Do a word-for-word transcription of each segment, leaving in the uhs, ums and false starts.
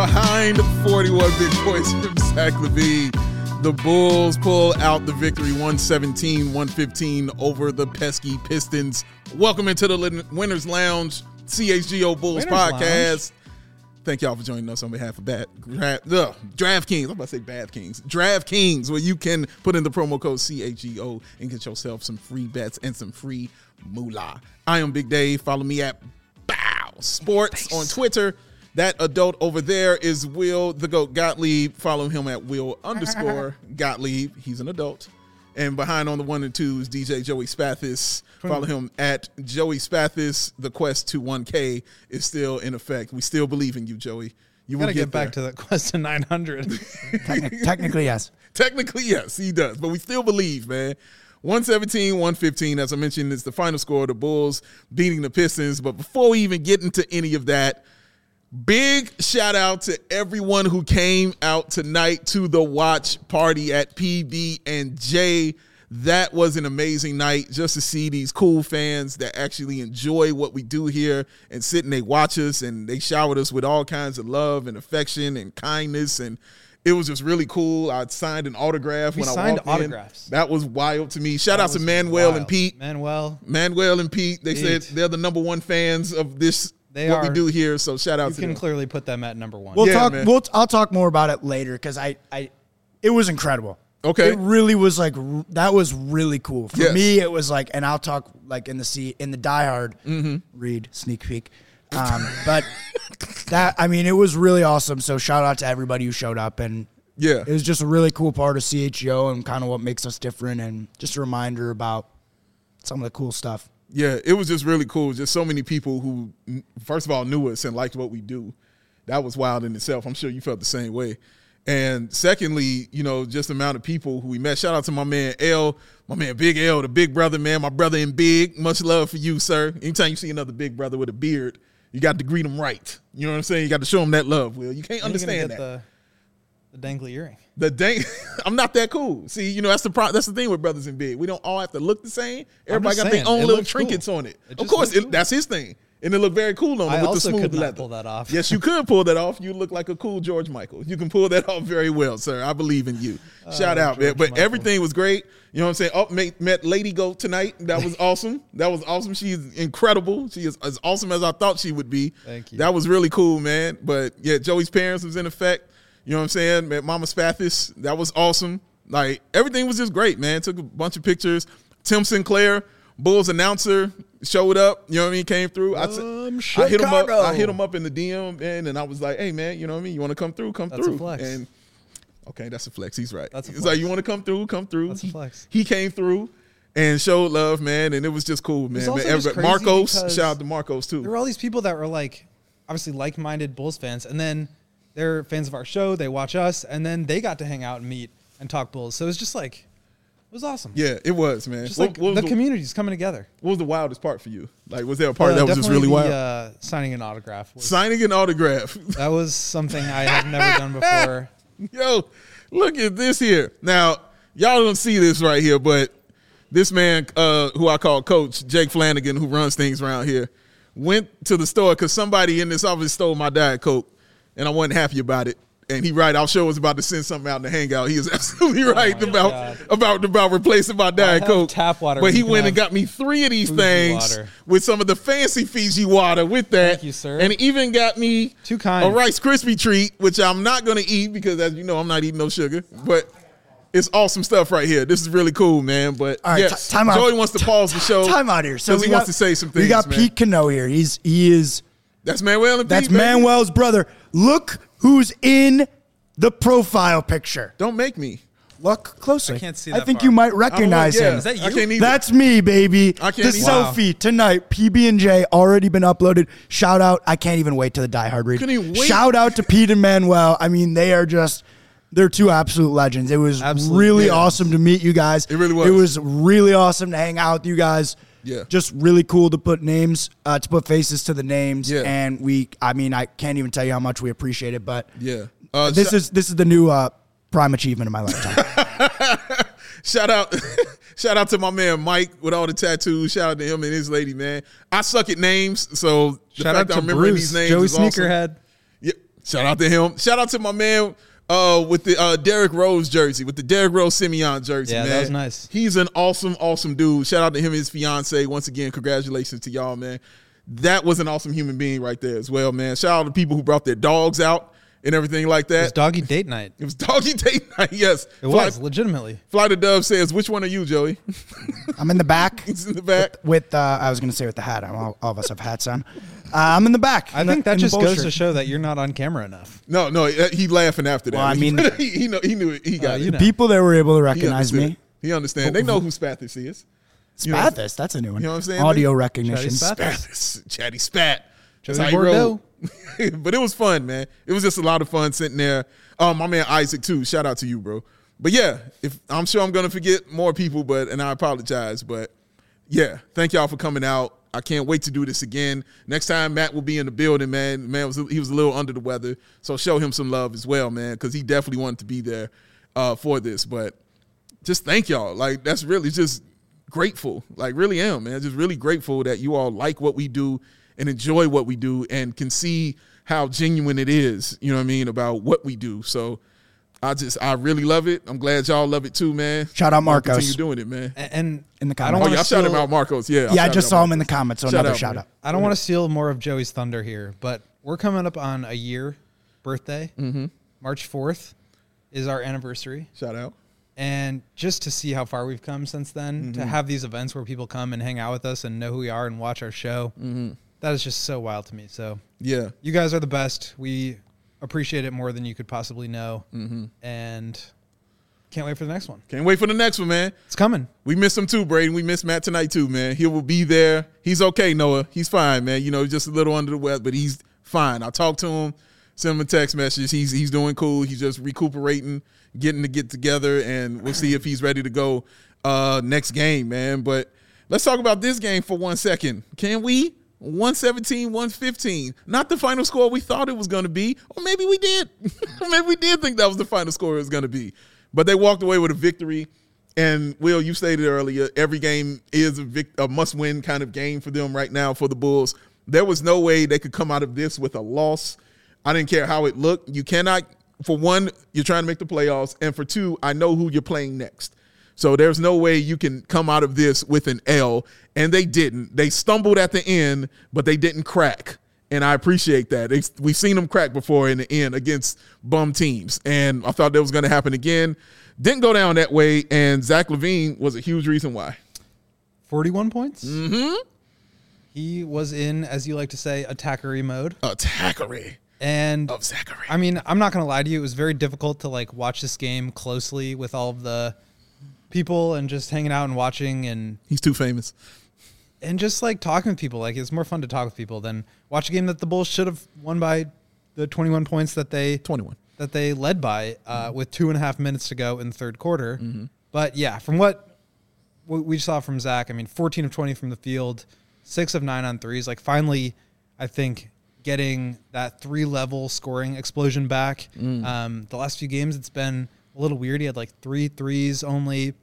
behind forty-one big points from Zach LaVine. The Bulls pull out the victory one seventeen one fifteen over the pesky Pistons. Welcome into the Winners Lounge, C H G O Bulls Winners podcast. Lounge. Thank y'all for joining us on behalf of Bat, Draft, ugh, DraftKings. I'm about to say Bad Kings. DraftKings, where you can put in the promo code C H G O and get yourself some free bets and some free moolah. I am Big Dave. Follow me at Bow Sports on Twitter. That adult over there is Will the Goat Gottlieb. Follow him at Will underscore Gottlieb. He's an adult. And behind on the one and two is D J Joey Spathis. Follow him at Joey Spathis. The quest to one K is still in effect. We still believe in you, Joey. You got will to get, get back there. to that quest to nine hundred. Techni- technically, yes. Technically, yes, he does. But we still believe, man. one seventeen one fifteen, as I mentioned, is the final score. The Bulls beating the Pistons. But before we even get into any of that, big shout out to everyone who came out tonight to the watch party at P B and J. That was an amazing night just to see these cool fans that actually enjoy what we do here and sit and they watch us and they showered us with all kinds of love and affection and kindness, and it was just really cool. I signed an autograph We when I signed walked autographs. in. That was wild to me. Shout That out to was Manuel wild. and Pete. Manuel. Manuel and Pete, they Pete. said they're the number one fans of this, They what we are. do here, so shout out You to can them. clearly put them at number one. We'll Yeah, talk. man. We'll. I'll talk more about it later because I, I, it was incredible. Okay. It really was like r- that was really cool for Yes. me. It was like, and I'll talk like in the C in the Die Hard Mm-hmm. read sneak peek, um, but that I mean it was really awesome. So shout out to everybody who showed up, and Yeah. it was just a really cool part of C H G O and kind of what makes us different, and just a reminder about some of the cool stuff. Yeah, it was just really cool. Just so many people who, first of all, knew us and liked what we do. That was wild in itself. I'm sure you felt the same way. And secondly, you know, just the amount of people who we met. Shout out to my man L, my man Big L, the big brother, man, my brother in big. Much love for you, sir. Anytime you see another big brother with a beard, you got to greet him right. You know what I'm saying? You got to show him that love, Will. You can't When are you gonna understand get that. The, the dangly earring. The dang, I'm not that cool. See, you know that's the pro, that's the thing with brothers in big. We don't all have to look the same. Everybody just got saying, their own it little looks trinkets cool. on it. It Of just course, looks it, cool. that's his thing, and it looked very cool on him I with also the smooth could not leather. pull that off. Yes, you could pull that off. You look like a cool George Michael. You can pull that off very well, sir. I believe in you. Shout out, man. George But Michael. everything was great. You know what I'm saying? Oh, met, met Lady Goat tonight. That was awesome. That was awesome. She is incredible. She is as awesome as I thought she would be. Thank you. That was really cool, man. But yeah, Joey's parents was in effect. You know what I'm saying? Met Mama Spathis. That was awesome. Like, everything was just great, man. Took a bunch of pictures. Tim Sinclair, Bulls announcer, showed up. You know what I mean? Came through. I, From I hit him up. Chicago. I hit him up in the D M, man, and I was like, "Hey, man, you know what I mean? You want to come through? Come That's through." a flex. And okay, that's a flex. He's right. That's a He's flex. like, "You want to come through? Come through." That's a he, flex. He came through and showed love, man, and it was just cool, man. was also man. just Everybody- crazy Marcos, because shout out to Marcos too. There were all these people that were like, obviously like-minded Bulls fans, and then they're fans of our show. They watch us, and then they got to hang out and meet and talk Bulls. So it was just like, it was awesome. Yeah, it was, man. Just What, like what was the the, community's coming together. what was the wildest part for you? Like, was there a part Uh, that was just definitely really the, wild? Uh, signing an autograph. Was, Signing an autograph. that was something I have never done before. Yo, look at this here. Now, y'all don't see this right here, but this man, uh, who I call Coach, Jake Flanagan, who runs things around here, went to the store because somebody in this office stole my Diet Coke, and I wasn't happy about it. And he right, our show was about to send something out in the hangout. He is absolutely right my about, God. about about replacing my Diet have Coke. tap water. But You he can went and have got me three of these Fiji things water. with some of the fancy Fiji water with that. Thank you, sir. And he even got me Too kind. a Rice Krispie treat, which I'm not going to eat because, as you know, I'm not eating no sugar. But it's awesome stuff right here. This is really cool, man. But All right, yes, t- time out. Joey wants to pause the show. Time out here. So because we he got, wants to say some things. We got man. Pete Cano here. He's he is That's Manuel and that's Pete, baby. Manuel's brother. Look who's in the profile picture. Don't make me. Look closer. I can't see I that think far. you might I don't recognize know, yeah. him. Is that I you? can't either. That's me, baby. I can't the either. Wow. selfie tonight. P B and J already been uploaded. Shout out. I can't even wait to the Die Hard read. Couldn't even wait. Shout out to Pete and Manuel. I mean, they are just they're two absolute legends. It was Absolutely. really Yeah. awesome to meet you guys. It really was. It was really awesome to hang out with you guys. Yeah. Just really cool to put names, uh, to put faces to the names. Yeah. And we, I mean, I can't even tell you how much we appreciate it, but Yeah. Uh, this sh- is this is the new uh, prime achievement of my lifetime. Shout out, shout out to my man Mike with all the tattoos. Shout out to him and his lady, man. I suck at names, so the Shout fact out that to I'm remembering Bruce, these names Joey is awesome. Sneakerhead. Yeah, Shout out to him. Shout out to my man uh, with the uh, Derrick Rose jersey, with the Derrick Rose Simeon jersey, Yeah, man. that was nice. He's an awesome, awesome dude. Shout out to him and his fiance. Once again, congratulations to y'all, man. That was an awesome human being right there as well, man. Shout out to people who brought their dogs out and everything like that. It was doggy date night. It was doggy date night, yes. It was, legitimately. Fly the Dove says, which one are you, Joey? I'm in the back. He's in the back. With, with uh, I was going to say with the hat. All, all of us have hats on. Uh, I'm in the back. I in think the, that in just the goes shirt. to show that you're not on camera enough. No, no, he laughing after that. Well, I mean- he, he, know, he knew it. He got Uh, it. you know. People that were able to He recognize understood. me. He understand. They know who Spathis is. You know- Spathis, that's a new one. You know what I'm saying? Audio Chatty recognition. Spathis. Spathis. Chatty Spat. That's Joey how he rolled. Bordeaux. But it was fun, man. It was just a lot of fun sitting there. Um, my man Isaac too. Shout out to you, bro. But yeah, if I'm sure I'm gonna forget more people, but and I apologize. But yeah, thank y'all for coming out. I can't wait to do this again. Next time Matt will be in the building, man. Man was he was a little under the weather, so show him some love as well, man, because he definitely wanted to be there uh, for this. But just thank y'all. Like that's really just grateful. Like really am, man. Just really grateful that you all like what we do and enjoy what we do and can see how genuine it is, you know what I mean, about what we do. So I just, I really love it. I'm glad y'all love it too, man. Shout out Marcos. Continue doing it, man. And, and In the I don't comments. Oh, want yeah, to I shouted steal, out Marcos. Yeah, Yeah, I just saw him in the comments, so Shout another out, shout man. out. I don't want to steal more of Joey's thunder here, but we're coming up on a year birthday. Mm-hmm. March fourth is our anniversary. Shout out. And just to see how far we've come since then, Mm-hmm. to have these events where people come and hang out with us and know who we are and watch our show, Mm-hmm. that is just so wild to me. So Yeah. you guys are the best. We appreciate it more than you could possibly know. Mm-hmm. And can't wait for the next one. Can't wait for the next one, man. It's coming. We miss him too, Braden. We miss Matt tonight too, man. He will be there. He's okay, Noah. He's fine, man. You know, just a little under the weather, but he's fine. I talked to him, sent him a text message. He's he's doing cool. He's just recuperating, getting to get together, and we'll see if he's ready to go uh, next game, man. But let's talk about this game for one second. Can we? one seventeen, one fifteen. Not the final score we thought it was going to be, or maybe we did. Maybe we did think that was the final score it was going to be. But they walked away with a victory. And, Will, you stated earlier, every game is a, vic- a must-win kind of game for them right now for the Bulls. There was no way they could come out of this with a loss. I didn't care how it looked. You cannot, for one, you're trying to make the playoffs. And for two, I know who you're playing next. So there's no way you can come out of this with an L. And they didn't. They stumbled at the end, but they didn't crack. And I appreciate that. They, we've seen them crack before in the end against bum teams. And I thought that was going to happen again. Didn't go down that way. And Zach LaVine was a huge reason why. forty-one points. Mm-hmm. He was in, as you like to say, attackery mode. Attackery And of Zachary. I mean, I'm not going to lie to you. It was very difficult to like watch this game closely with all of the people and just hanging out and watching and He's too famous. and just like talking with people. Like it's more fun to talk with people than watch a game that the Bulls should have won by the twenty-one points that they twenty-one. that they led by uh, with two and a half minutes to go in the third quarter. Mm-hmm. But yeah, from what what we saw from Zach, I mean, fourteen of twenty from the field, six of nine on threes. Like finally, I think getting that three level scoring explosion back. Mm. Um, the last few games, it's been a little weird. He had like three threes only.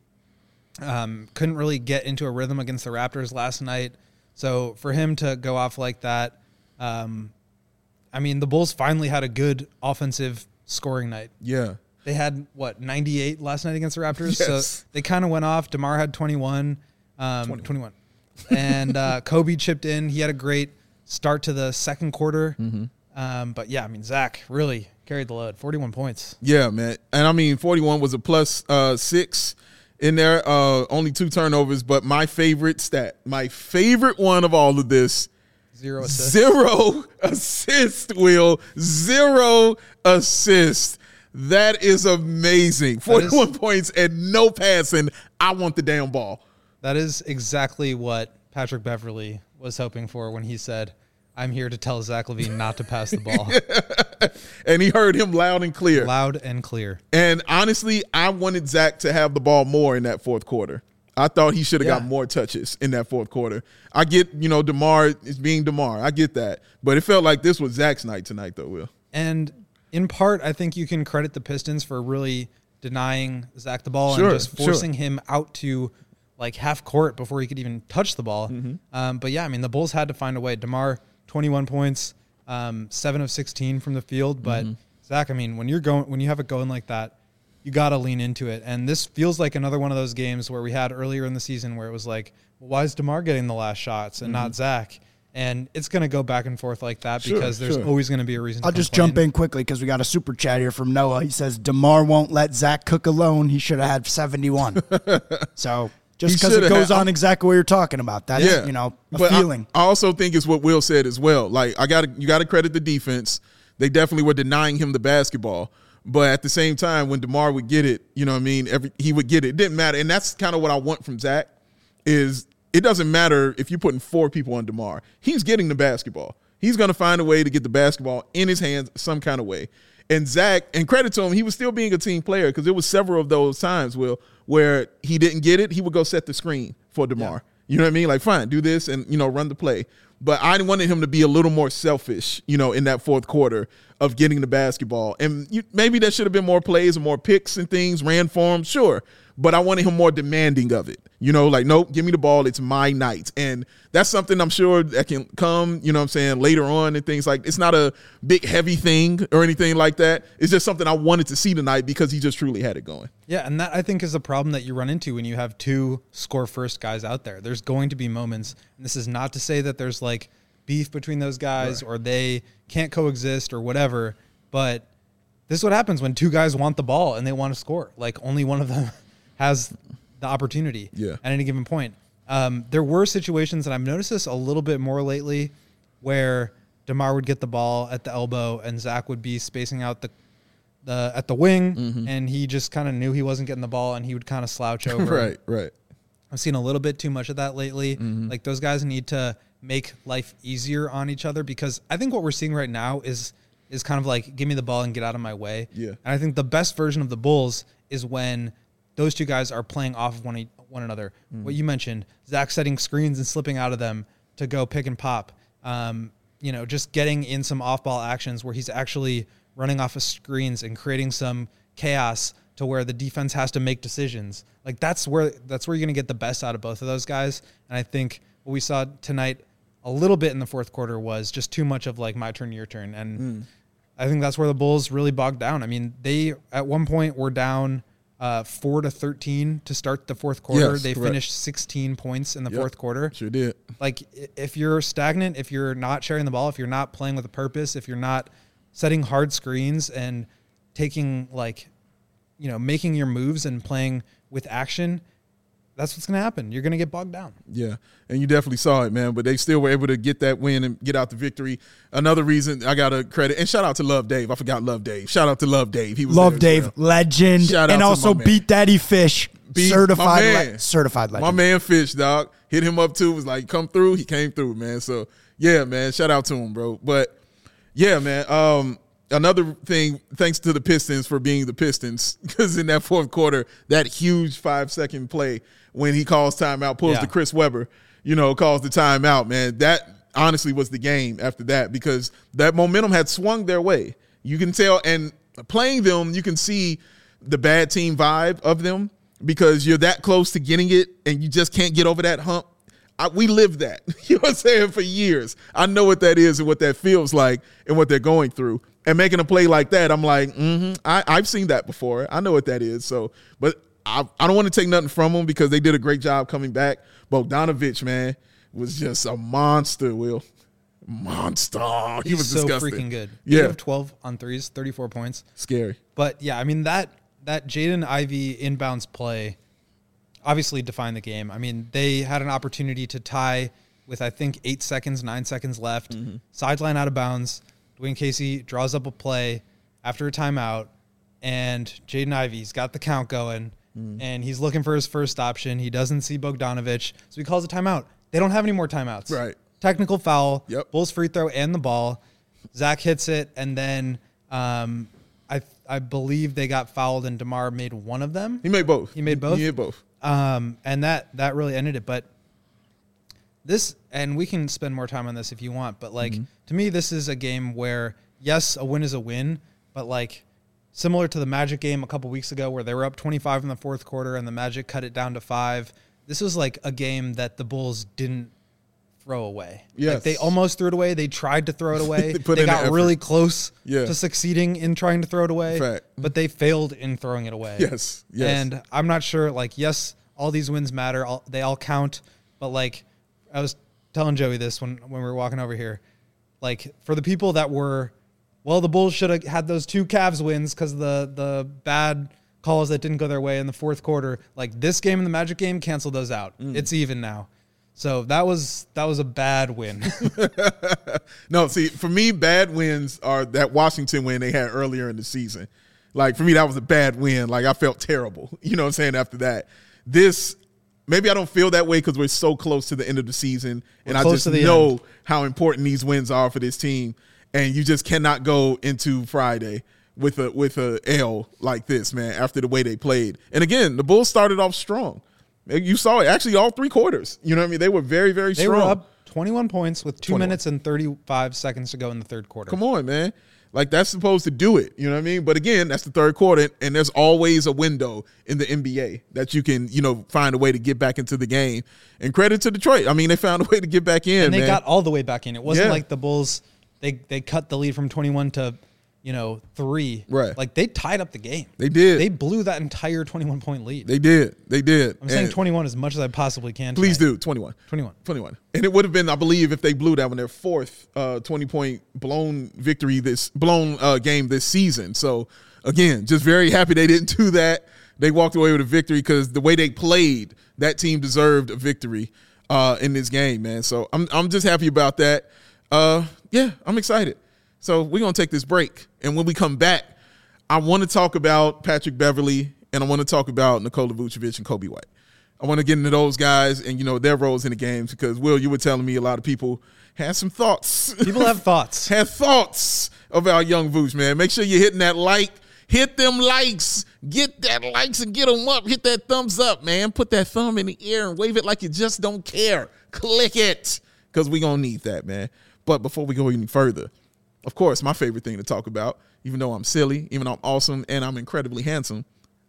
Um, couldn't really get into a rhythm against the Raptors last night. So for him to go off like that, um, I mean, the Bulls finally had a good offensive scoring night. Yeah. They had, what, ninety-eight last night against the Raptors? Yes. So they kind of went off. DeMar had twenty-one. Um, twenty-one. twenty-one. And uh, Kobe chipped in. He had a great start to the second quarter. Mm-hmm. Um, but, yeah, I mean, Zach really carried the load. forty-one points. Yeah, man. And I mean, forty-one was a plus uh, six in there. Uh, only two turnovers. But my favorite stat, my favorite one of all of this, Zero assists. zero assist, Will. Zero assist. That is amazing. forty-one is- points and no passing. I want the damn ball. That is exactly what Patrick Beverly was hoping for when he said, I'm here to tell Zach LaVine not to pass the ball. And he heard him loud and clear. Loud and clear. And honestly, I wanted Zach to have the ball more in that fourth quarter. I thought he should have Yeah. got more touches in that fourth quarter. I get, you know, DeMar is being DeMar. I get that. But it felt like this was Zach's night tonight, though, Will. And in part, I think you can credit the Pistons for really denying Zach the ball Sure, and just sure. forcing him out to like half court before he could even touch the ball. Mm-hmm. Um, but yeah, I mean, the Bulls had to find a way. DeMar, twenty-one points. um, seven of sixteen from the field. But Mm-hmm. Zach, I mean, when you're going, when you have it going like that, you got to lean into it. And this feels like another one of those games where we had earlier in the season where it was like, well, why is DeMar getting the last shots and Mm-hmm. not Zach? And it's going to go back and forth like that Sure, because there's sure. always going to be a reason. I'll to just complain. jump in quickly because we got a super chat here from Noah. He says, DeMar won't let Zach cook alone. He should have had seventy-one. So just He because it shoulda goes had- on exactly what you're talking about. That's, Yeah, you know, a but I- feeling. I, also think it's what Will said as well. Like I got to you got to credit the defense. They definitely were denying him the basketball, but at the same time, when DeMar would get it, you know what I mean. Every he would get it. It didn't matter, and that's kind of what I want from Zach. Is it doesn't matter if you're putting four people on DeMar. He's getting the basketball. He's going to find a way to get the basketball in his hands some kind of way. And Zach, and credit to him, he was still being a team player because there was several of those times, Will, where he didn't get it. He would go set the screen for DeMar. You know what I mean? Like, fine, do this and, you know, run the play. But I wanted him to be a little more selfish, you know, in that fourth quarter of getting the basketball. And you, maybe there should have been more plays and more picks and things, ran for him, sure. But I wanted him more demanding of it. You know, like, nope, give me the ball. It's my night. And that's something I'm sure that can come, you know what I'm saying, later on and things like, it's not a big heavy thing or anything like that. It's just something I wanted to see tonight because he just truly had it going. Yeah, and that I think is the problem that you run into when you have two score first guys out there. There's going to be moments, and this is not to say that there's like beef between those guys Right. or they can't coexist or whatever, but this is what happens when two guys want the ball and they want to score. Like only one of them has the opportunity Yeah. at any given point. Um, there were situations, and I've noticed this a little bit more lately, where DeMar would get the ball at the elbow and Zach would be spacing out the the at the wing, Mm-hmm. and he just kind of knew he wasn't getting the ball, and he would kind of slouch over. Right, right. I've seen a little bit too much of that lately. Mm-hmm. Like those guys need to make life easier on each other because I think what we're seeing right now is is kind of like give me the ball and get out of my way. Yeah. And I think the best version of the Bulls is when those two guys are playing off of one e- one another. Mm. What you mentioned, Zach setting screens and slipping out of them to go pick and pop. Um, you know, just getting in some off-ball actions where he's actually running off of screens and creating some chaos to where the defense has to make decisions. Like that's where that's where you're going to get the best out of both of those guys. And I think what we saw tonight a little bit in the fourth quarter was just too much of like my turn, your turn. And Mm. I think that's where the Bulls really bogged down. I mean, they at one point were down uh, four to thirteen to start the fourth quarter. Yes, they correct. finished sixteen points in the Yep. fourth quarter. Sure did. Like i- if you're stagnant, if you're not sharing the ball, if you're not playing with a purpose, if you're not setting hard screens and taking like, you know, making your moves and playing with action, that's what's going to happen. You're going to get bogged down. Yeah, and you definitely saw it, man. But they still were able to get that win and get out the victory. Another reason I got to credit, and shout out to Love Dave. I forgot Love Dave. Shout out to Love Dave. He was Love there as Dave, well. legend. Shout out and to also my man. Beat Daddy Fish, Beat- my certified, man. le- certified legend. My man Fish, dog, hit him up too. Was like, come through. He came through, man. So yeah, man. Shout out to him, bro. But yeah, man. Um, another thing, thanks to the Pistons for being the Pistons, because in that fourth quarter, that huge five second play when he calls timeout, pulls Yeah. to Chris Webber, you know, calls the timeout, man. That honestly was the game after that because that momentum had swung their way. You can tell, and playing them, you can see the bad team vibe of them because you're that close to getting it and you just can't get over that hump. I, we lived that, you know what I'm saying, for years. I know what that is and what that feels like and what they're going through. And making a play like that, I'm like, mm-hmm, I, I've seen that before. I know what that is. So, but I, I don't want to take nothing from them because they did a great job coming back. Bogdanovich, man, was just a monster, Will. Monster. He He's was so disgusting. freaking good. Yeah. eight of twelve on threes, thirty-four points. Scary. But yeah, I mean that that Jaden Ivey inbounds play obviously defined the game. I mean, they had an opportunity to tie with I think eight seconds, nine seconds left. Mm-hmm. Sideline out of bounds. Dwayne Casey draws up a play after a timeout, and Jaden Ivey's got the count going, Mm-hmm. and he's looking for his first option. He doesn't see Bogdanovich, so he calls a timeout. They don't have any more timeouts. Right. Technical foul. Yep. Bulls free throw and the ball. Zach hits it, and then um, I I believe they got fouled, and DeMar made one of them. He made both. He made both? He made both. Um, and that that really ended it. But this, and we can spend more time on this if you want, but like to me, this is a game where yes, a win is a win, but like similar to the Magic game a couple weeks ago where they were up twenty-five in the fourth quarter and the Magic cut it down to five. This was like a game that the Bulls didn't throw away. Yes. Like they almost threw it away. They tried to throw it away. They they put in the got effort. really close Yeah. to succeeding in trying to throw it away, Fact. but they failed in throwing it away. Yes, yes. And I'm not sure, like, yes, all these wins matter. All, they all count. But, like, I was telling Joey this when, when we were walking over here. Like, for the people that were, well, the Bulls should have had those two Cavs wins because of the, the bad calls that didn't go their way in the fourth quarter. Like, this game and the Magic game, canceled those out. Mm. It's even now. So that was that was a bad win. No, see, for me, bad wins are that Washington win they had earlier in the season. Like, for me, that was a bad win. Like, I felt terrible. You know what I'm saying, after that. This, maybe I don't feel that way because we're so close to the end of the season. We're and I just know end. how important these wins are for this team. And you just cannot go into Friday with a with a L like this, man, after the way they played. And, again, the Bulls started off strong. You saw it. Actually, all three quarters. You know what I mean? They were very, very they strong. They were up twenty-one points with two twenty-one minutes and thirty-five seconds to go in the third quarter. Come on, man. Like, that's supposed to do it. You know what I mean? But, again, that's the third quarter, and there's always a window in the N B A that you can, you know, find a way to get back into the game. And credit to Detroit. I mean, they found a way to get back in, And they man. got all the way back in. It wasn't Yeah. like the Bulls, they, they cut the lead from twenty-one to, you know, three. Right. Like, they tied up the game. They did. They blew that entire twenty-one point lead. They did. They did. I'm saying And twenty-one as much as I possibly can. Please tonight. do. twenty-one. twenty-one. twenty-one. And it would have been, I believe, if they blew that one, their fourth uh, twenty-point blown victory, this blown uh, game this season. So, again, just very happy they didn't do that. They walked away with a victory because the way they played, that team deserved a victory uh, in this game, man. So I'm I'm just happy about that. Uh, yeah, I'm excited. So we're going to take this break. And when we come back, I want to talk about Patrick Beverley, and I want to talk about Nikola Vucevic and Kobe White. I want to get into those guys and, you know, their roles in the games because, Will, you were telling me a lot of people had some thoughts. People have thoughts. have thoughts about young Vooch, man. Make sure you're hitting that like. Hit them likes. Get that likes and get them up. Hit that thumbs up, man. Put that thumb in the air and wave it like you just don't care. Click it because we're going to need that, man. But before we go any further, of course, my favorite thing to talk about, even though I'm silly, even though I'm awesome and I'm incredibly handsome,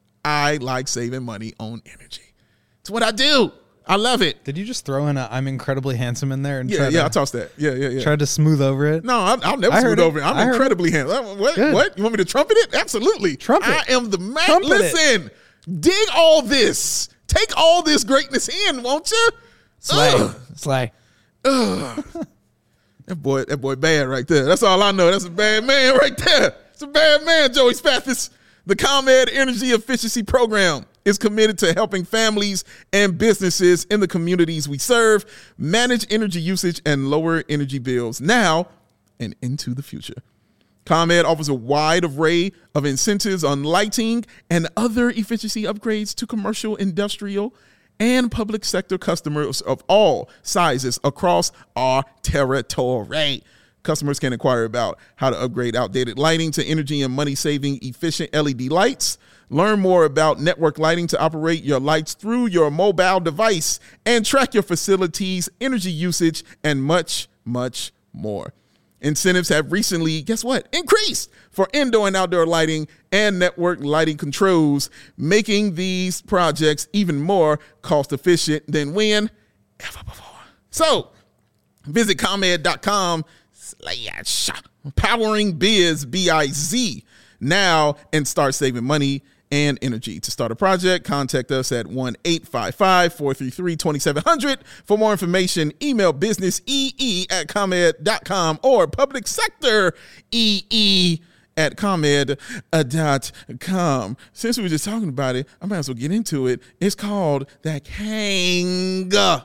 I like saving money on energy. It's what I do. I love it. Did you just throw in a "I'm incredibly handsome" in there and Yeah, try yeah, to, I tossed that. Yeah, yeah, yeah. tried to smooth over it? No, I'll, I'll never I smooth heard it. over it. I'm I heard incredibly handsome. What? Good. What? You want me to trumpet it? Absolutely. Trumpet. I am the man. Trumpet it. Listen, dig all this. Take all this greatness in, won't you? Slay. Ugh. Slay. Ugh. That boy, that boy bad right there. That's all I know. That's a bad man right there. It's a bad man, Joey Spathis. The ComEd Energy Efficiency Program is committed to helping families and businesses in the communities we serve manage energy usage and lower energy bills now and into the future. ComEd offers a wide array of incentives on lighting and other efficiency upgrades to commercial, industrial, and public sector customers of all sizes across our territory. Customers can inquire about how to upgrade outdated lighting to energy and money-saving efficient L E D lights. Learn more about network lighting to operate your lights through your mobile device and track your facility's energy usage and much, much more. Incentives have recently, guess what, increased for indoor and outdoor lighting and network lighting controls, making these projects even more cost-efficient than when ever before. So, visit ComEd dot com slash powering biz, B I Z, now and start saving money and energy. To start a project, contact us at one eight five five, four three three, two seven zero zero. For more information, email businessee at ComEd dot com or public sector ee at ComEd dot com. Since we were just talking about it, I might as well get into it. It's called the King of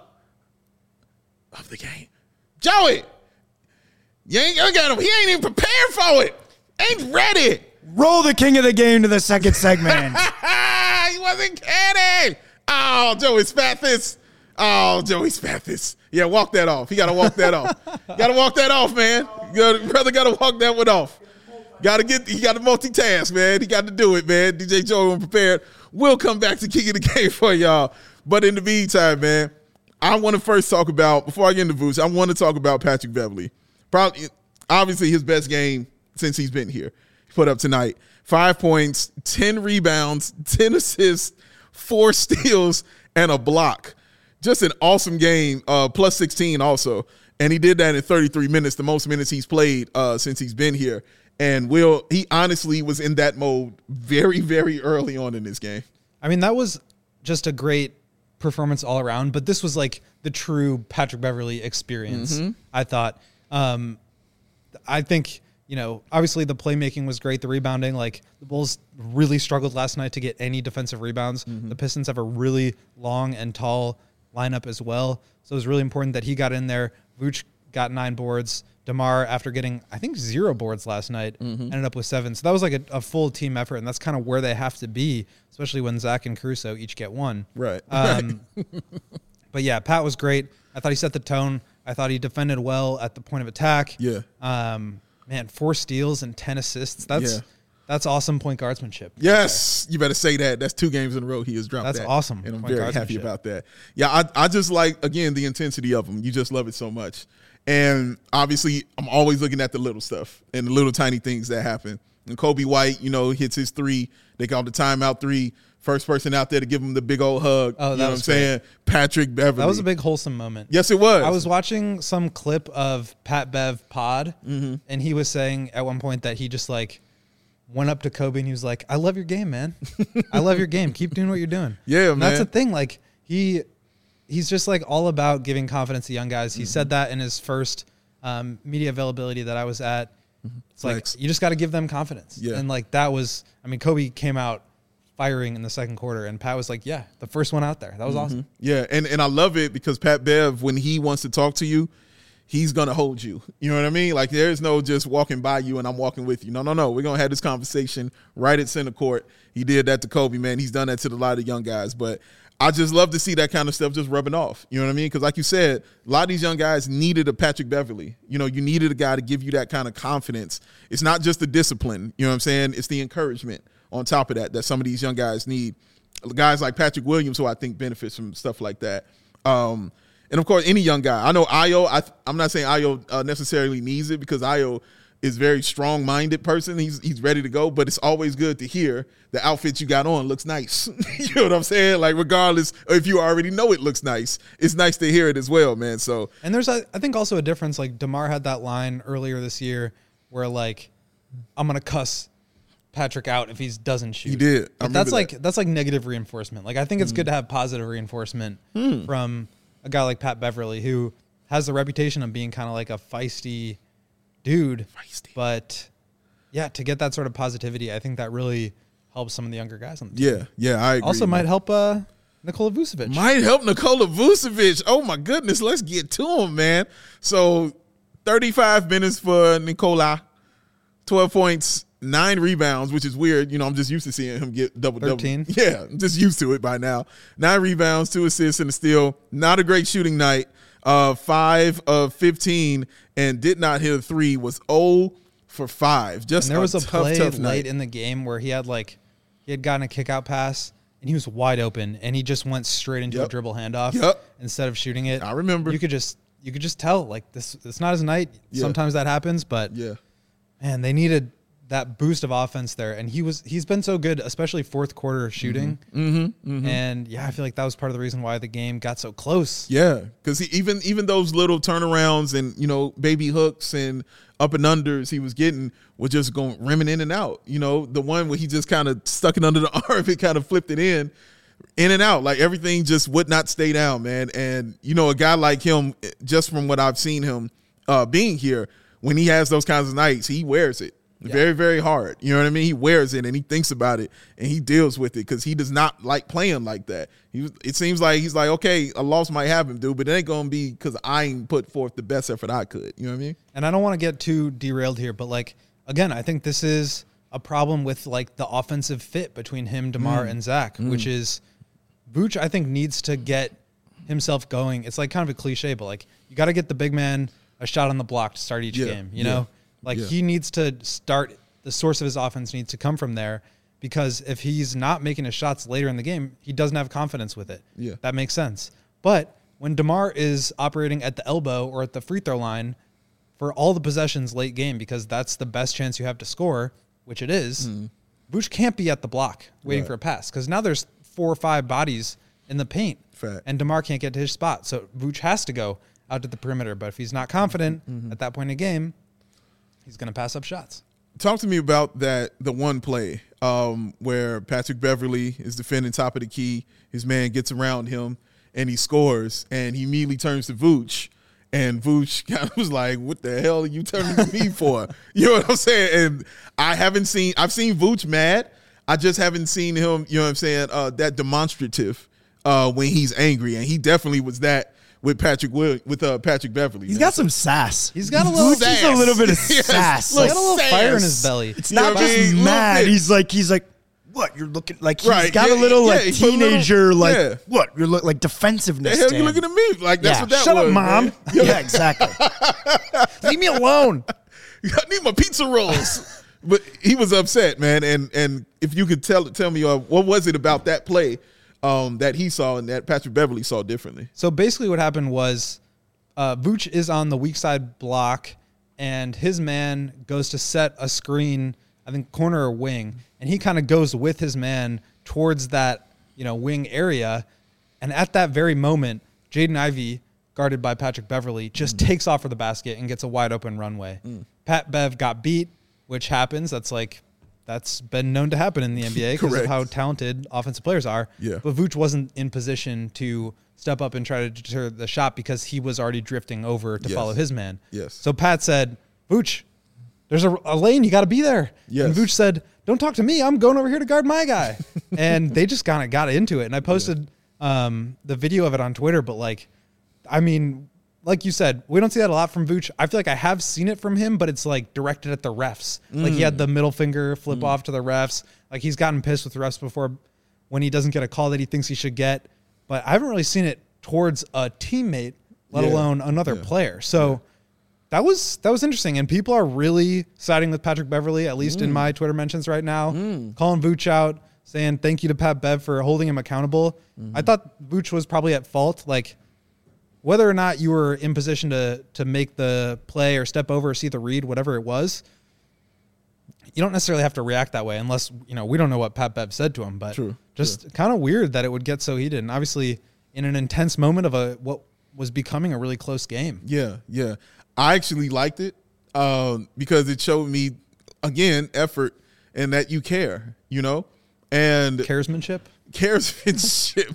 the Game. Joey! You ain't you got him. He ain't even prepared for it. Ain't ready. Roll the king of the game to the second segment. He wasn't kidding. Oh, Joey Spathis. Oh, Joey Spathis. Yeah, walk that off. He got to walk that off. Got to walk that off, man. You gotta, brother got to walk that one off. Got to get. He got to multitask, man. He got to do it, man. D J Joey unprepared. We'll come back to King of the Game for y'all. But in the meantime, man, I want to first talk about, before I get into Vooch, I want to talk about Patrick Beverley. Probably, obviously, his best game since he's been here. He put up tonight five points, ten rebounds, ten assists, four steals, and a block. just an awesome game, uh, plus sixteen also. And he did that in thirty-three minutes, the most minutes he's played uh, since he's been here. And Will, he honestly was in that mode very, very early on in this game. I mean, that was just a great performance all around, but this was like the true Patrick Beverley experience, mm-hmm. I thought. Um, I think, you know, obviously the playmaking was great, the rebounding. Like, the Bulls really struggled last night to get any defensive rebounds. Mm-hmm. The Pistons have a really long and tall lineup as well, so it was really important that he got in there. Vooch got nine boards. DeMar, after getting, I think, zero boards last night, mm-hmm. ended up with seven. So that was like a, a full team effort, and that's kind of where they have to be, especially when Zach and Caruso each get one. Right. Um, but, yeah, Pat was great. I thought he set the tone. I thought he defended well at the point of attack. Yeah. Um, man, four steals and ten assists. That's yeah. that's awesome point guardsmanship. Yes, you better say that. That's two games in a row he has dropped that's that. That's awesome. And I'm very happy about that. Yeah, I, I just like, again, the intensity of him. You just love it so much. And obviously, I'm always looking at the little stuff and the little tiny things that happen. And Kobe White, you know, hits his three. They call the timeout three. First person out there to give him the big old hug. Oh, that you know was what I'm saying? Patrick Beverley. That was a big wholesome moment. Yes, it was. I was watching some clip of Pat Bev pod, mm-hmm. and he was saying at one point that he just like went up to Kobe and he was like, "I love your game, man. I love your game. Keep doing what you're doing." Yeah, and man. That's the thing. Like he, he's just like all about giving confidence to young guys. He mm-hmm. said that in his first um, media availability that I was at. Mm-hmm. It's Flex. like you just got to give them confidence. Yeah. And like that was, I mean, Kobe came out firing in the second quarter, and Pat was like, yeah, the first one out there. That was mm-hmm. awesome. Yeah, and, and I love it because Pat Bev, when he wants to talk to you, he's going to hold you. You know what I mean? Like, there's no just walking by you and I'm walking with you. No, no, no. We're going to have this conversation right at center court. He did that to Kobe, man. He's done that to a lot of young guys. But I just love to see that kind of stuff just rubbing off. You know what I mean? Because like you said, a lot of these young guys needed a Patrick Beverley. You know, you needed a guy to give you that kind of confidence. It's not just the discipline. You know what I'm saying? It's the encouragement on top of that that some of these young guys need. Guys like Patrick Williams, who I think benefits from stuff like that. Um, and, of course, any young guy. I know Ayo, I, I'm not saying Ayo uh, necessarily needs it because Ayo is a very strong-minded person. He's he's ready to go, but it's always good to hear the outfit you got on looks nice. You know what I'm saying? Like, regardless if you already know it looks nice, it's nice to hear it as well, man. So, and there's, a, I think, also a difference. Like, DeMar had that line earlier this year where, like, I'm going to cuss Patrick out if he doesn't shoot. He did. But that's like that. that's like negative reinforcement. Like I think it's mm. good to have positive reinforcement mm. from a guy like Pat Beverley, who has the reputation of being kind of like a feisty dude. Feisty. But yeah, to get that sort of positivity, I think that really helps some of the younger guys on the team. Yeah, yeah, I agree. Also might help uh, Nikola Vucevic. Might help Nikola Vucevic. Oh my goodness, let's get to him, man. So thirty-five minutes for Nikola, twelve points. Nine rebounds, which is weird. You know, I'm just used to seeing him get double-double. thirteen Yeah, I'm just used to it by now. Nine rebounds, two assists, and a steal. Not a great shooting night. Uh, five of fifteen and did not hit a three. Was zero for five. Just and there was a, a tough, play tough late night. in the game where he had like he had gotten a kick-out pass, and he was wide open, and he just went straight into yep. a dribble handoff yep. instead of shooting it. I remember. You could just you could just tell, like, this it's not his night. Yeah. Sometimes that happens, but yeah, man, they needed that boost of offense there, and he was he's been so good, especially fourth quarter shooting. Mm-hmm, mm-hmm. And yeah, I feel like that was part of the reason why the game got so close. Yeah, because even even those little turnarounds and, you know, baby hooks and up and unders he was getting were just going rimming in and out. You know, the one where he just kind of stuck it under the arm, it kind of flipped it in, in and out. Like, everything just would not stay down, man. And, you know, a guy like him, just from what I've seen him uh, being here, when he has those kinds of nights, he wears it. Yeah. Very, very hard. You know what I mean? He wears it and he thinks about it and he deals with it because he does not like playing like that. He, it seems like he's like, okay, a loss might happen, dude, but it ain't going to be because I ain't put forth the best effort I could. You know what I mean? And I don't want to get too derailed here, but, like, again, I think this is a problem with, like, the offensive fit between him, DeMar, mm. and Zach, mm. which is Vooch, I think, needs to get himself going. It's, like, kind of a cliche, but, like, you got to get the big man a shot on the block to start each yeah. game, you yeah. know? Like, yeah. he needs to start – the source of his offense needs to come from there, because if he's not making his shots later in the game, he doesn't have confidence with it. Yeah. That makes sense. But when DeMar is operating at the elbow or at the free throw line for all the possessions late game, because that's the best chance you have to score, which it is, mm. Vooch can't be at the block waiting right. for a pass, because now there's four or five bodies in the paint. Fact. And DeMar can't get to his spot. So Vooch has to go out to the perimeter. But if he's not confident mm-hmm. at that point in the game, he's going to pass up shots. Talk to me about that, the one play um, where Patrick Beverley is defending top of the key. His man gets around him, and he scores, and he immediately turns to Vooch. And Vooch kind of was like, what the hell are you turning to me for? You know what I'm saying? And I haven't seen – I've seen Vooch mad. I just haven't seen him, you know what I'm saying, uh, that demonstrative uh, when he's angry. And he definitely was that with Patrick Will, with uh, Patrick Beverley. He's man. got some sass. He's got a little Vooch sass. He's a little bit of Yes, sass. He's Like, got a little sass. fire in his belly. it's You know not what I just mean? mad. Little bit. He's like, he's like, what? You're looking like he's Right, got yeah, a little yeah, like he put a little- teenager, like yeah. what? You're look like The defensiveness. hell to you him. looking at me? Like, that's yeah. what that Shut was. up, mom. man. Yeah, exactly. Leave me alone. I need my pizza rolls. But he was upset, man. And and if you could tell tell me uh, what was it about that play um, that he saw and that Patrick Beverley saw differently? So basically what happened was uh, Vooch is on the weak side block, and his man goes to set a screen, I think corner or wing, and he kind of goes with his man towards that, you know, wing area. And at that very moment, Jaden Ivey, guarded by Patrick Beverley, just mm. takes off for the basket and gets a wide open runway. Mm. Pat Bev got beat, which happens. That's like, that's been known to happen in the N B A because of how talented offensive players are. Yeah. But Vooch wasn't in position to step up and try to deter the shot because he was already drifting over to Yes. follow his man. Yes. So Pat said, Vooch, there's a, a lane. You got to be there. Yes. And Vooch said, don't talk to me. I'm going over here to guard my guy. And they just kind of got into it. And I posted yeah. um, the video of it on Twitter. But, like, I mean, like you said, we don't see that a lot from Vooch. I feel like I have seen it from him, but it's, like, directed at the refs. Mm. Like, he had the middle finger flip mm. off to the refs. Like, he's gotten pissed with refs before when he doesn't get a call that he thinks he should get. But I haven't really seen it towards a teammate, let yeah. alone another yeah. player. So yeah. that was that was interesting. And people are really siding with Patrick Beverley, at least mm. in my Twitter mentions right now, mm. calling Vooch out, saying thank you to Pat Bev for holding him accountable. Mm-hmm. I thought Vooch was probably at fault. Like, whether or not you were in position to to make the play or step over or see the read, whatever it was, you don't necessarily have to react that way unless, you know, we don't know what Pat Bev said to him. But True. just kind of weird that it would get so heated. And obviously in an intense moment of a what was becoming a really close game. Yeah, yeah. I actually liked it um, because it showed me, again, effort and that you care, you know? And Caresmanship? Caresmanship.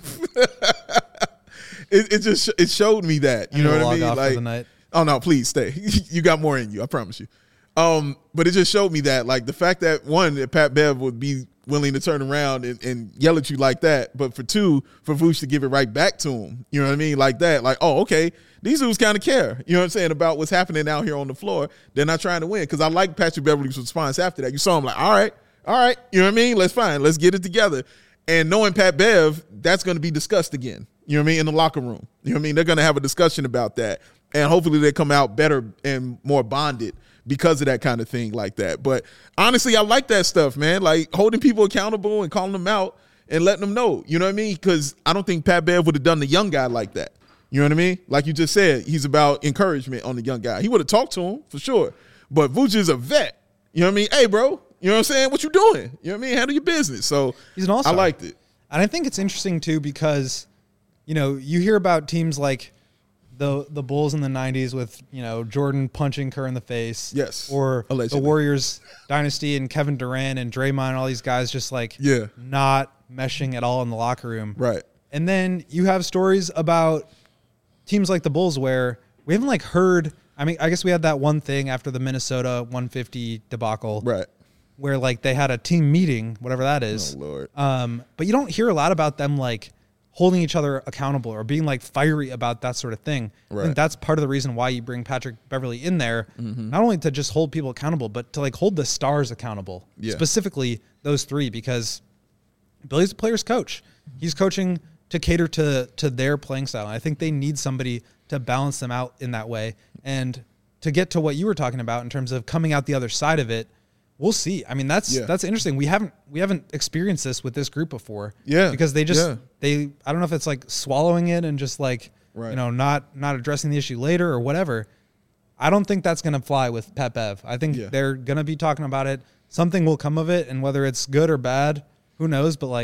it, it just it showed me that, you know what I mean? Off like, for the night. Oh, no, please stay. You got more in you, I promise you. Um, but it just showed me that, like, the fact that, one, that Pat Bev would be willing to turn around and, and yell at you like that, but for two, for Vooch to give it right back to him, you know what I mean? Like that, like, oh, okay, these dudes kind of care, you know what I'm saying, about what's happening out here on the floor. They're not trying to win, because I like Patrick Beverley's response after that. You saw him like, all right, all right, you know what I mean? Let's fine, let's get it together. And knowing Pat Bev, that's going to be discussed again, you know what I mean, in the locker room. You know what I mean? They're going to have a discussion about that, and hopefully they come out better and more bonded because of that kind of thing like that. But honestly, I like that stuff, man. Like holding people accountable and calling them out and letting them know, you know what I mean? Because I don't think Pat Bev would have done the young guy like that. You know what I mean? Like you just said, he's about encouragement on the young guy. He would have talked to him for sure. But Vooch is a vet. You know what I mean? Hey, bro, you know what I'm saying? What you doing? You know what I mean? Handle your business. So he's an all-star. I liked it. And I think it's interesting too because, you know, you hear about teams like the the Bulls in the nineties with, you know, Jordan punching Kerr in the face. Yes. Or Allegedly. the Warriors dynasty and Kevin Durant and Draymond and all these guys just like yeah. not meshing at all in the locker room. Right. And then you have stories about teams like the Bulls where we haven't like heard, I mean, I guess we had that one thing after the Minnesota one fifty debacle. Right. Where like they had a team meeting, whatever that is. Oh, Lord. Um, but you don't hear a lot about them like holding each other accountable or being like fiery about that sort of thing. Right. I think that's part of the reason why you bring Patrick Beverley in there, mm-hmm. not only to just hold people accountable, but to like hold the stars accountable, yeah. specifically those three, because Billy's a player's coach. He's coaching to cater to, to their playing style. And I think they need somebody to balance them out in that way. And to get to what you were talking about in terms of coming out the other side of it, we'll see. I mean, that's yeah. that's interesting. We haven't we haven't experienced this with this group before. Yeah, because they just yeah. they I don't know if it's like swallowing it and just like right. you know not not addressing the issue later or whatever. I don't think that's gonna fly with Pat Bev. I think yeah. they're gonna be talking about it. Something will come of it, and whether it's good or bad, who knows? But like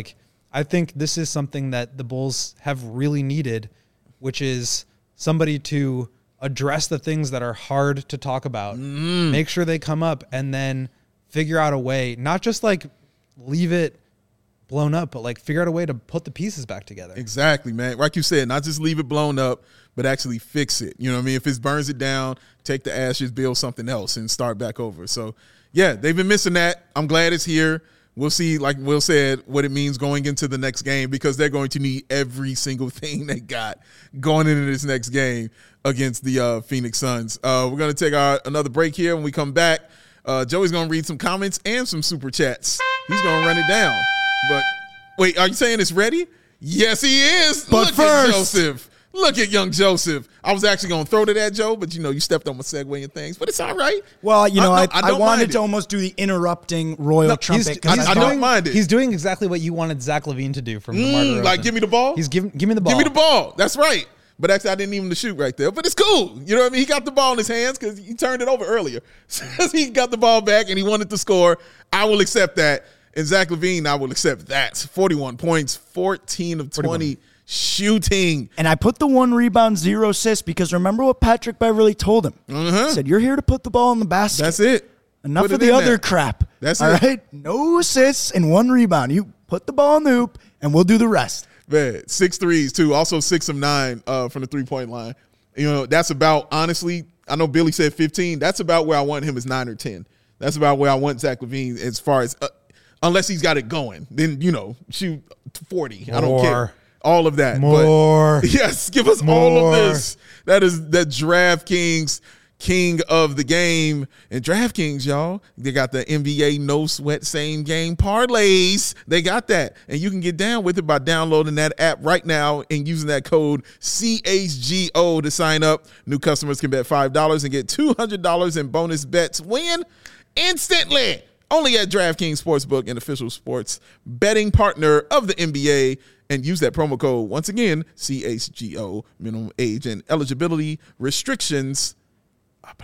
I think this is something that the Bulls have really needed, which is somebody to address the things that are hard to talk about, mm. make sure they come up, and then figure out a way, not just like leave it blown up, but like figure out a way to put the pieces back together. Exactly, man. Like you said, not just leave it blown up, but actually fix it. You know what I mean? If it burns it down, take the ashes, build something else, and start back over. So, yeah, they've been missing that. I'm glad it's here. We'll see, like Will said, what it means going into the next game, because they're going to need every single thing they got going into this next game against the uh, Phoenix Suns. Uh, we're going to take our another break here. When we come back, uh, Joey's going to read some comments and some super chats. He's going to run it down. But wait, are you saying it's ready? Yes, he is. But Look first, at Joseph. Look at young Joseph. I was actually going to throw to that, Joe, but, you know, you stepped on my segue and things. But it's all right. Well, you know, I, I, I, I wanted to it. almost do the interrupting royal No, trumpet. He's, 'cause he's I I thought- don't mind it. He's doing exactly what you wanted Zach LaVine to do from Mm, DeMar DeRozan. like, give me the ball? He's giving, give me the ball. Give me the ball. That's right. But actually, I didn't even shoot right there. But it's cool. You know what I mean? He got the ball in his hands because he turned it over earlier. So he got the ball back and he wanted to score. I will accept that. And Zach LaVine, I will accept that. forty-one points, fourteen of twenty shooting. And I put the one rebound, zero assists, because remember what Patrick Beverly told him. Uh-huh. He said, you're here to put the ball in the basket. That's it. Enough Put of it the in other there. crap. That's all it. right? No assists and one rebound. You put the ball in the hoop, and we'll do the rest. Man, six threes, too. Also six of nine uh, from the three-point line. You know, that's about, honestly, I know Billy said fifteen. That's about where I want him as nine or ten. That's about where I want Zach LaVine as far as, uh, unless he's got it going. Then, you know, shoot forty. I don't care. More. All of that. More. But yes, give us all More. of this. That is the DraftKings king of the game. And DraftKings, y'all, they got the N B A no sweat same game parlays. They got that. And you can get down with it by downloading that app right now and using that code C H G O to sign up. New customers can bet five dollars and get two hundred dollars in bonus bets. Win instantly. Only at DraftKings Sportsbook, an official sports betting partner of the N B A. And use that promo code, once again, C H G O, minimum age and eligibility restrictions apply.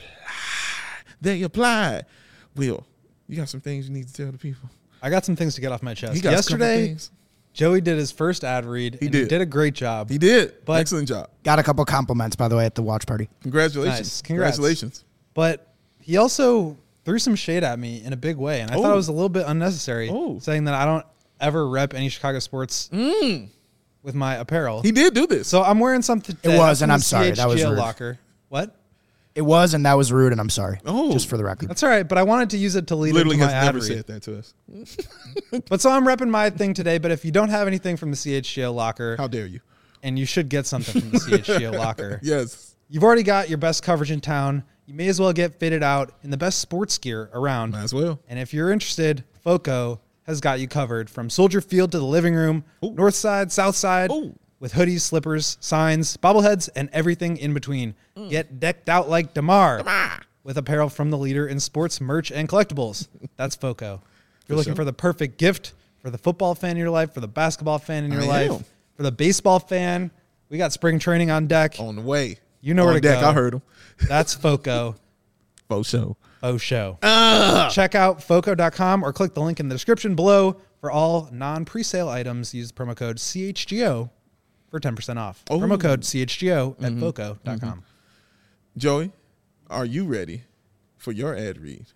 They apply. Will, you got some things you need to tell the people? I got some things to get off my chest. He got a couple Yesterday, things. Joey did his first ad read. He and did. He did a great job. He did. But- Excellent job. Got a couple compliments, by the way, at the watch party. Congratulations. Nice. Congrats. Congratulations. But he also threw some shade at me in a big way, and I thought Oh. it was a little bit unnecessary, Oh. saying that I don't ever rep any Chicago sports with my apparel. He did do this. so I'm wearing something. It that- was, from and the I'm sorry, that was C H G O rude. locker. What? It was, and that was rude, and I'm sorry. Oh. Just for the record. That's all right, but I wanted to use it to lead Literally into has my ad never read. said that to us. But so I'm repping my thing today. But if you don't have anything from the C H G O locker, How dare you? and you should get something from the C H G O locker, Yes. you've already got your best coverage in town. You may as well get fitted out in the best sports gear around. Might as well. And if you're interested, FOCO has got you covered from Soldier Field to the living room, Ooh. north side, south side, Ooh. with hoodies, slippers, signs, bobbleheads, and everything in between. Mm. Get decked out like DeMar with apparel from the leader in sports merch and collectibles. That's FOCO. If you're looking sure. for the perfect gift for the football fan in your life, for the basketball fan in your I life, am. for the baseball fan, we got spring training on deck. On the way. You know On where to deck, go. I heard him. That's FOCO. Faux show. Faux show. Ah. Check out foco dot com or click the link in the description below for all non-presale items. Use the promo code C H G O for ten percent off. Oh. Promo code C H G O at Mm-hmm. foco dot com. Joey, are you ready for your ad read?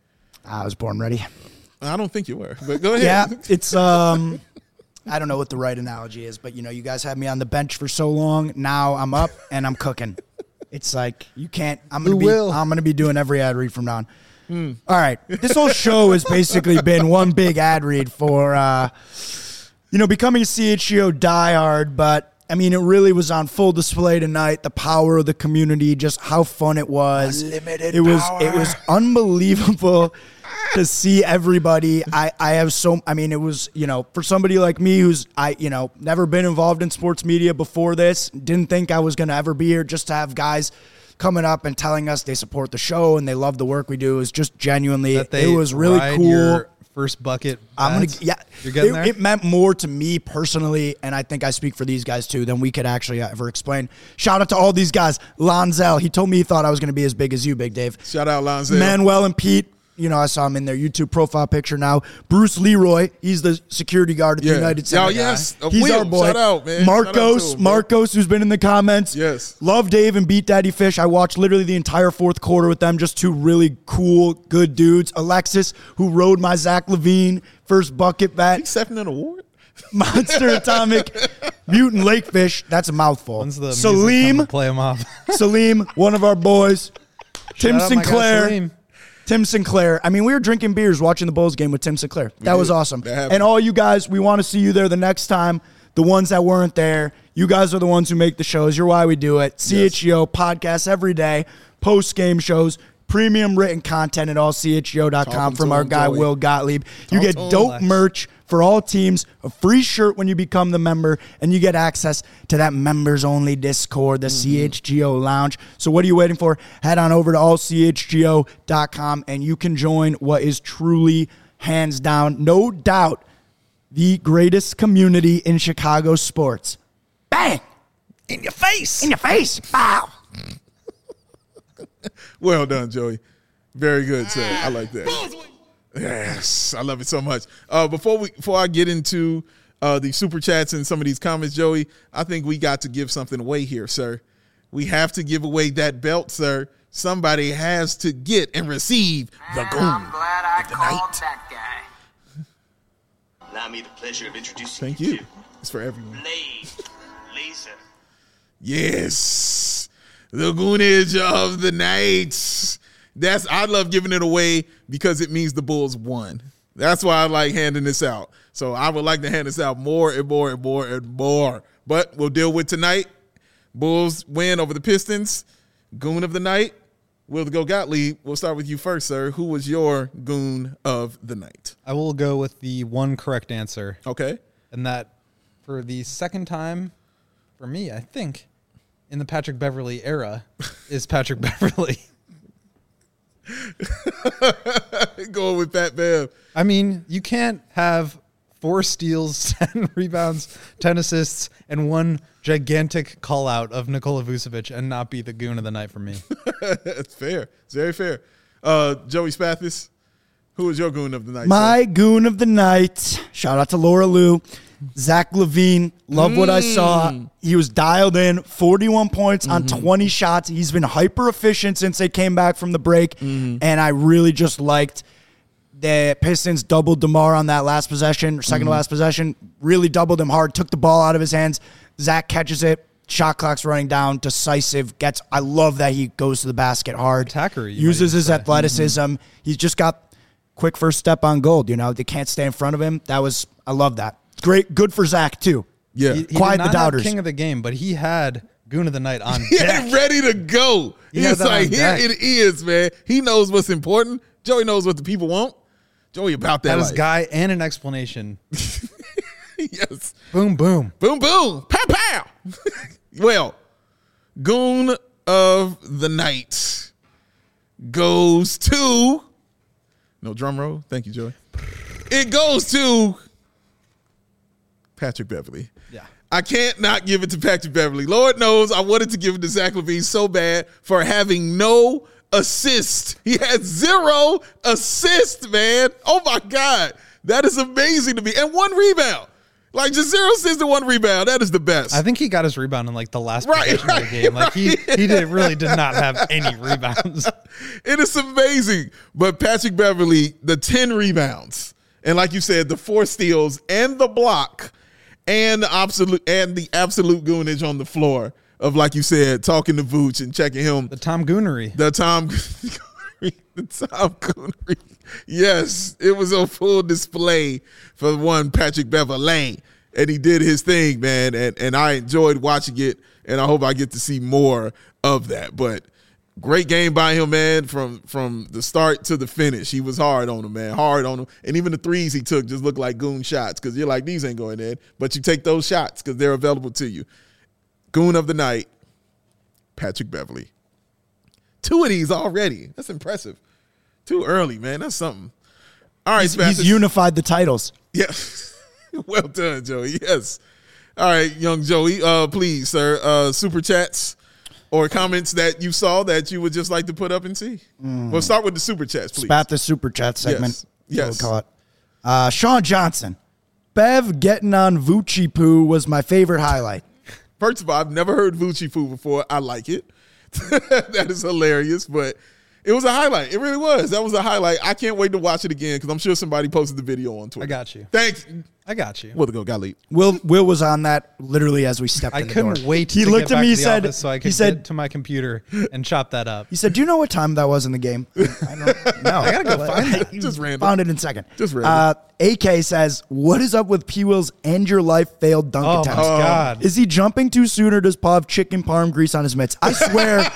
I was born ready. I don't think you were, but go ahead. Yeah, it's um, I don't know what the right analogy is, but you know, you guys had me on the bench for so long. Now I'm up and I'm cooking. It's like you can't. I'm gonna Who be. will? I'm gonna be doing every ad read from now on. All right, this whole show has basically been one big ad read for, uh, you know, becoming a C H G O diehard. But I mean, it really was on full display tonight. The power of the community, just how fun it was. Unlimited It was. power. It was unbelievable to see everybody. I, I have so, I mean, it was, you know, for somebody like me who's, I, you know, never been involved in sports media before this, didn't think I was going to ever be here, just to have guys coming up and telling us they support the show and they love the work we do is just genuinely, That they it was really ride cool. your first bucket. I'm gonna, bets. yeah, You're getting it, there? it meant more to me personally, and I think I speak for these guys too, than we could actually ever explain. Shout out to all these guys. Lonzel, he told me he thought I was going to be as big as you, Big Dave. Shout out Lonzel. Manuel and Pete, You know, I saw him in their YouTube profile picture now. Bruce Leroy, he's the security guard at Yeah. the United Center. Oh, yes. A He's wheel. our boy. Shout out, man. Shout out to Marcos, him, bro. Marcos, who's been in the comments. Yes. Love Dave and Beat Daddy Fish. I watched literally the entire fourth quarter with them. Just two really cool, good dudes. Alexis, who rode my Zach Levine first bucket bat. Accepting an award? Monster Atomic, Mutant Lakefish. That's a mouthful. When's the Salim, play him off? Salim, one of our boys. Tim Shout out my guy Sinclair. Salim. Tim Sinclair. I mean, we were drinking beers watching the Bulls game with Tim Sinclair. That was did. awesome. That happened. And all you guys, we want to see you there the next time. The ones that weren't there, you guys are the ones who make the shows. You're why we do it. C H G O podcasts every day, post-game shows, premium written content at all C H G O dot com Talking from to our him, guy, Joey. Will Gottlieb. You Talk get to him, dope Lex. merch for all teams, a free shirt when you become the member, and you get access to that members-only Discord, the C H G O Lounge. So what are you waiting for? Head on over to all C H G O dot com, and you can join what is truly, hands down, no doubt, the greatest community in Chicago sports. Bang! In your face. In your face! Bow! Well done, Joey. Very good, sir. I like that. Yes, I love it so much. Uh, before we, before I get into uh, the super chats and some of these comments, Joey, I think we got to give something away here, sir. We have to give away that belt, sir. Somebody has to get and receive the goon I'm glad I of the called night. that guy. Allow me the pleasure of introducing Thank you, you. to It's for everyone. Blade Laser. Yes, the goonage of the night. That's I love giving it away because it means the Bulls won. That's why I like handing this out. So I would like to hand this out more and more and more and more. But we'll deal with tonight. Bulls win over the Pistons. Goon of the night. We'll go Gottlieb. We'll start with you first, sir. Who was your goon of the night? I will go with the one correct answer, Okay. and that for the second time, for me, I think, in the Patrick Beverly era, is Patrick Beverly. Going with Pat Bev. I mean, you can't have four steals, ten rebounds, ten assists, and one gigantic call out of Nikola Vucevic and not be the goon of the night for me. That's fair. It's very fair. Uh, Joey Spathis, who was your goon of the night? My sir? goon of the night. Shout out to Laura Lou. Zach Levine. Love what I saw. He was dialed in. forty-one points on twenty shots. He's been hyper efficient since they came back from the break. And I really just liked the Pistons doubled DeMar on that last possession, second to last possession. Really doubled him hard. Took the ball out of his hands. Zach catches it. Shot clock's running down. Decisive. Gets. I love that he goes to the basket hard. Attacker, you Uses might his say. athleticism. He's just got quick first step on gold. You know, they can't stay in front of him. That was, I love that. Great, good for Zach too. Yeah. He, he Quiet did the not doubters. have king of the game, but he had goon of the night on He deck. had ready to go. He had He's that like, on here deck. it is, man. He knows what's important. Joey knows what the people want. Joey about that That is life. guy and an explanation. Yes. Boom, boom. Boom, boom. Pow, pow. Well, goon of the night goes to, no drum roll. Thank you, Joey. It goes to Patrick Beverly. Yeah. I can't not give it to Patrick Beverly. Lord knows I wanted to give it to Zach LaVine so bad for having no assist. He had zero assist, man. Oh, my God. That is amazing to me. And one rebound. Like, just zero assists and one rebound. That is the best. I think he got his rebound in like the last Right, possession of the game. Like he, right. he did really did not have any rebounds. It is amazing. But Patrick Beverly, the ten rebounds, and like you said, the four steals and the block and the absolute and the absolute goonage on the floor of, like you said, talking to Vooch and checking him. The Tom Goonery. The Tom the Tom Goonery. Yes, it was on full display for one Patrick Beverley. And he did his thing, man. And and I enjoyed watching it. And I hope I get to see more of that. But great game by him, man, from from the start to the finish. He was hard on him, man. Hard on him. And even the threes he took just looked like goon shots because you're like, these ain't going in. But you take those shots because they're available to you. Goon of the night, Patrick Beverley. Two of these already. That's impressive. Too early, man. That's something. All right, He's, Spathis. he's unified the titles. Yeah. Well done, Joey. Yes. All right, young Joey. Uh, please, sir. Uh, super chats. or comments that you saw that you would just like to put up and see. Mm. Well, start with the super chats, please. Spat the super chat segment. Yes. yes. We'll call it. Uh, Sean Johnson. Bev getting on Vucci Poo was my favorite highlight. First of all, I've never heard Vucci Poo before. I like it. That is hilarious, but it was a highlight. It really was. That was a highlight. I can't wait to watch it again because I'm sure somebody posted the video on Twitter. I got you. Thanks. I got you. Well, to go, got leap. Will Will was on that literally as we stepped I in the couldn't door. wait He to looked get at back me, to he the said, office so I he could said, get to my computer and chop that up. He said, "Do you know what time that was in the game?" I don't know. I gotta go find that. Just random. Found it in a second. Just random. Uh, A K says, "What is up with P. Will's end your life failed dunk Oh my attempts? God. Is he jumping too soon or does Paul have chicken parm grease on his mitts?" I swear,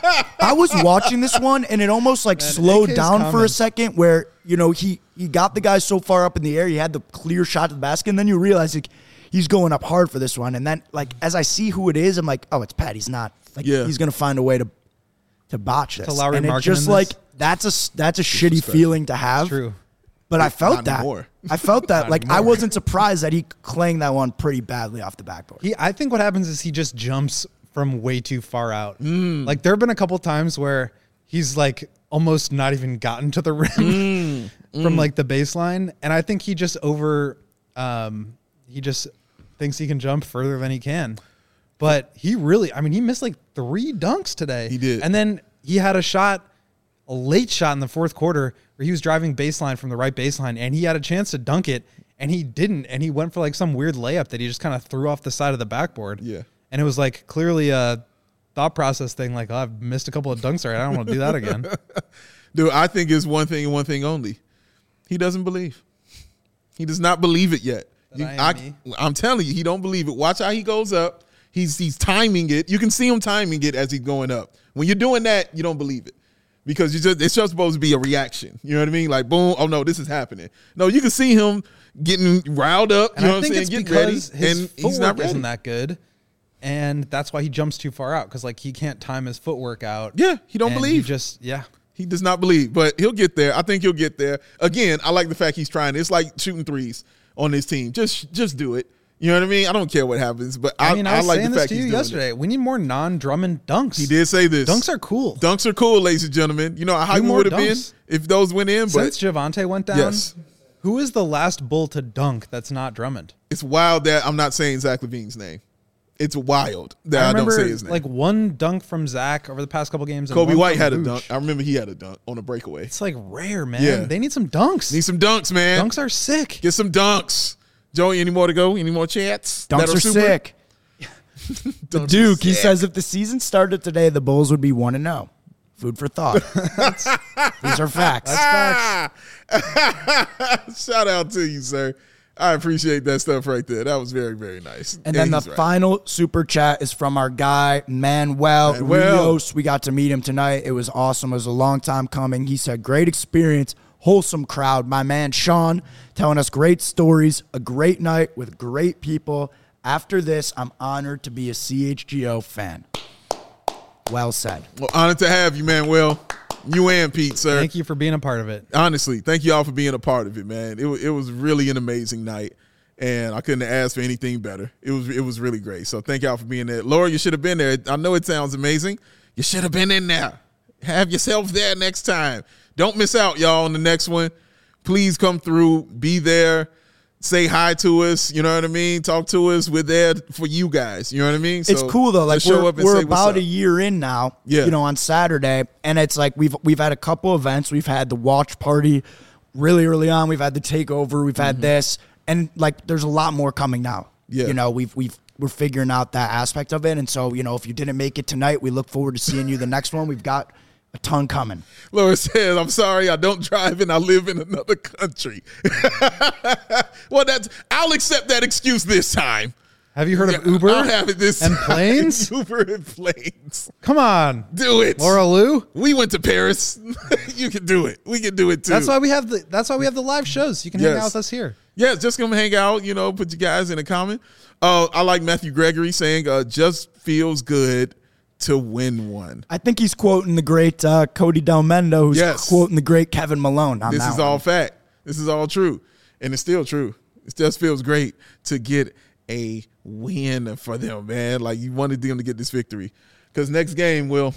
I was watching this one and it almost like Man, slowed A K's down for a coming. second where, you know, he, he got the guy so far up in the air, he had the clear shot to the basket, and then you realize like, he's going up hard for this one. And then like as I see who it is, I'm like, oh, it's Pat. He's not. Like Yeah. he's gonna find a way to to botch this. To Lowry and it Markkanen just this? like that's a that's a shitty feeling to have. True. But I felt Not that. anymore. I felt that. Not Like I anymore. wasn't surprised that he clanged that one pretty badly off the backboard. He, I think what happens is he just jumps from way too far out. Mm. Like there have been a couple times where he's like almost not even gotten to the rim Mm. from like the baseline, and I think he just over, um, he just thinks he can jump further than he can. But he really, I mean, he missed like three dunks today. He did. and then he had a shot, a late shot in the fourth quarter where he was driving baseline from the right baseline, and he had a chance to dunk it, and he didn't, and he went for like some weird layup that he just kind of threw off the side of the backboard. Yeah. And it was like clearly a thought process thing. Like, oh, I've missed a couple of dunks already. I don't want to do that again. Dude, I think it's one thing and one thing only. He doesn't believe. He does not believe it yet. That You- I am me. I'm telling you, he don't believe it. Watch how he goes up. He's he's timing it. You can see him timing it as he's going up. When you're doing that, you don't believe it. Because you just it's just supposed to be a reaction. You know what I mean? Like, boom, oh no, this is happening. No, you can see him getting riled up. And you know I what I'm think saying? it's Getting because ready, his and he's footwork not ready. isn't that good. And that's why he jumps too far out, because like he can't time his footwork out. Yeah, he don't And believe. He just yeah. He does not believe, but he'll get there. I think he'll get there. Again, I like the fact he's trying. It's like shooting threes on this team. Just just do it. You know what I mean? I don't care what happens, but I, I mean, I, I was like saying the this fact to he's you doing yesterday. We need more non-Drummond dunks. it. He did say this. Dunks are cool. Dunks are cool, ladies and gentlemen. You know how Do we more would have been dunks. if those went in, but Since Javante went down, Yes. who is the last Bull to dunk that's not Drummond? it's wild that I'm not saying Zach LaVine's name. It's wild that I I, don't remember say his name. like one dunk from Zach over the past couple games. and Kobe one White from had a Vooch. dunk. I remember he had a dunk on a breakaway. It's like rare, man. Yeah. They need some dunks. Need some dunks, man. Dunks are sick. Get some dunks. Joey, any more to go? Any more chats? Dunks that are super? sick. Dunks are Duke, he sick. says if the season started today, the Bulls would be one and zero. Food for thought. These are facts. Ah! Shout out to you, sir. I appreciate that stuff right there. That was very, very nice. And then the he's right. final super chat is from our guy, Manuel, Manuel. Rios. We got to meet him tonight. It was awesome. It was a long time coming. He said, great experience, wholesome crowd. My man, Sean, telling us great stories, a great night with great people. After this, I'm honored to be a C H G O fan. Well said. Well, honored to have you, Manuel. You and Pete, sir. Thank you for being a part of it. Honestly, thank you all for being a part of it, man. It, wa- it was really an amazing night, and I couldn't have asked for anything better. It was it was really great. So thank y'all for being there. Laura, you should have been there. I know it sounds amazing. You should have been in there. Have yourself there next time. Don't miss out, y'all, on the next one. Please come through. Be there. Say hi to us. You know what I mean? Talk to us. We're there for you guys. You know what I mean? It's So cool though. Like just show we're, up and we're say what's about up. a year in now. Yeah. You know, on Saturday, and it's like we've we've had a couple events. We've had the watch party really early on. We've had the takeover. We've had this, and like there's a lot more coming now. Yeah. You know, we've we've we're figuring out that aspect of it, and so you know, if you didn't make it tonight, we look forward to seeing you the next one. We've got a ton coming. Laura says, I'm sorry, I don't drive and I live in another country. Well, that's I'll accept that excuse this time. Have you heard of Uber I'll have it this and time. planes? Uber and planes. Come on, Do it. Laura Lou. We went to Paris. You can do it. We can do it too. That's why we have the. That's why we have the live shows. You can hang Yes. out with us here. Yeah, just come hang out, you know, put you guys in a comment. Uh, I like Matthew Gregory saying, uh, just feels good to win one. I think he's quoting the great uh, Cody Delmendo, who's Yes. quoting the great Kevin Malone. On This that is one. all fact. This is all true. And it's still true. It just feels great to get a win for them, man. Like you wanted them to get this victory. Because next game, Will,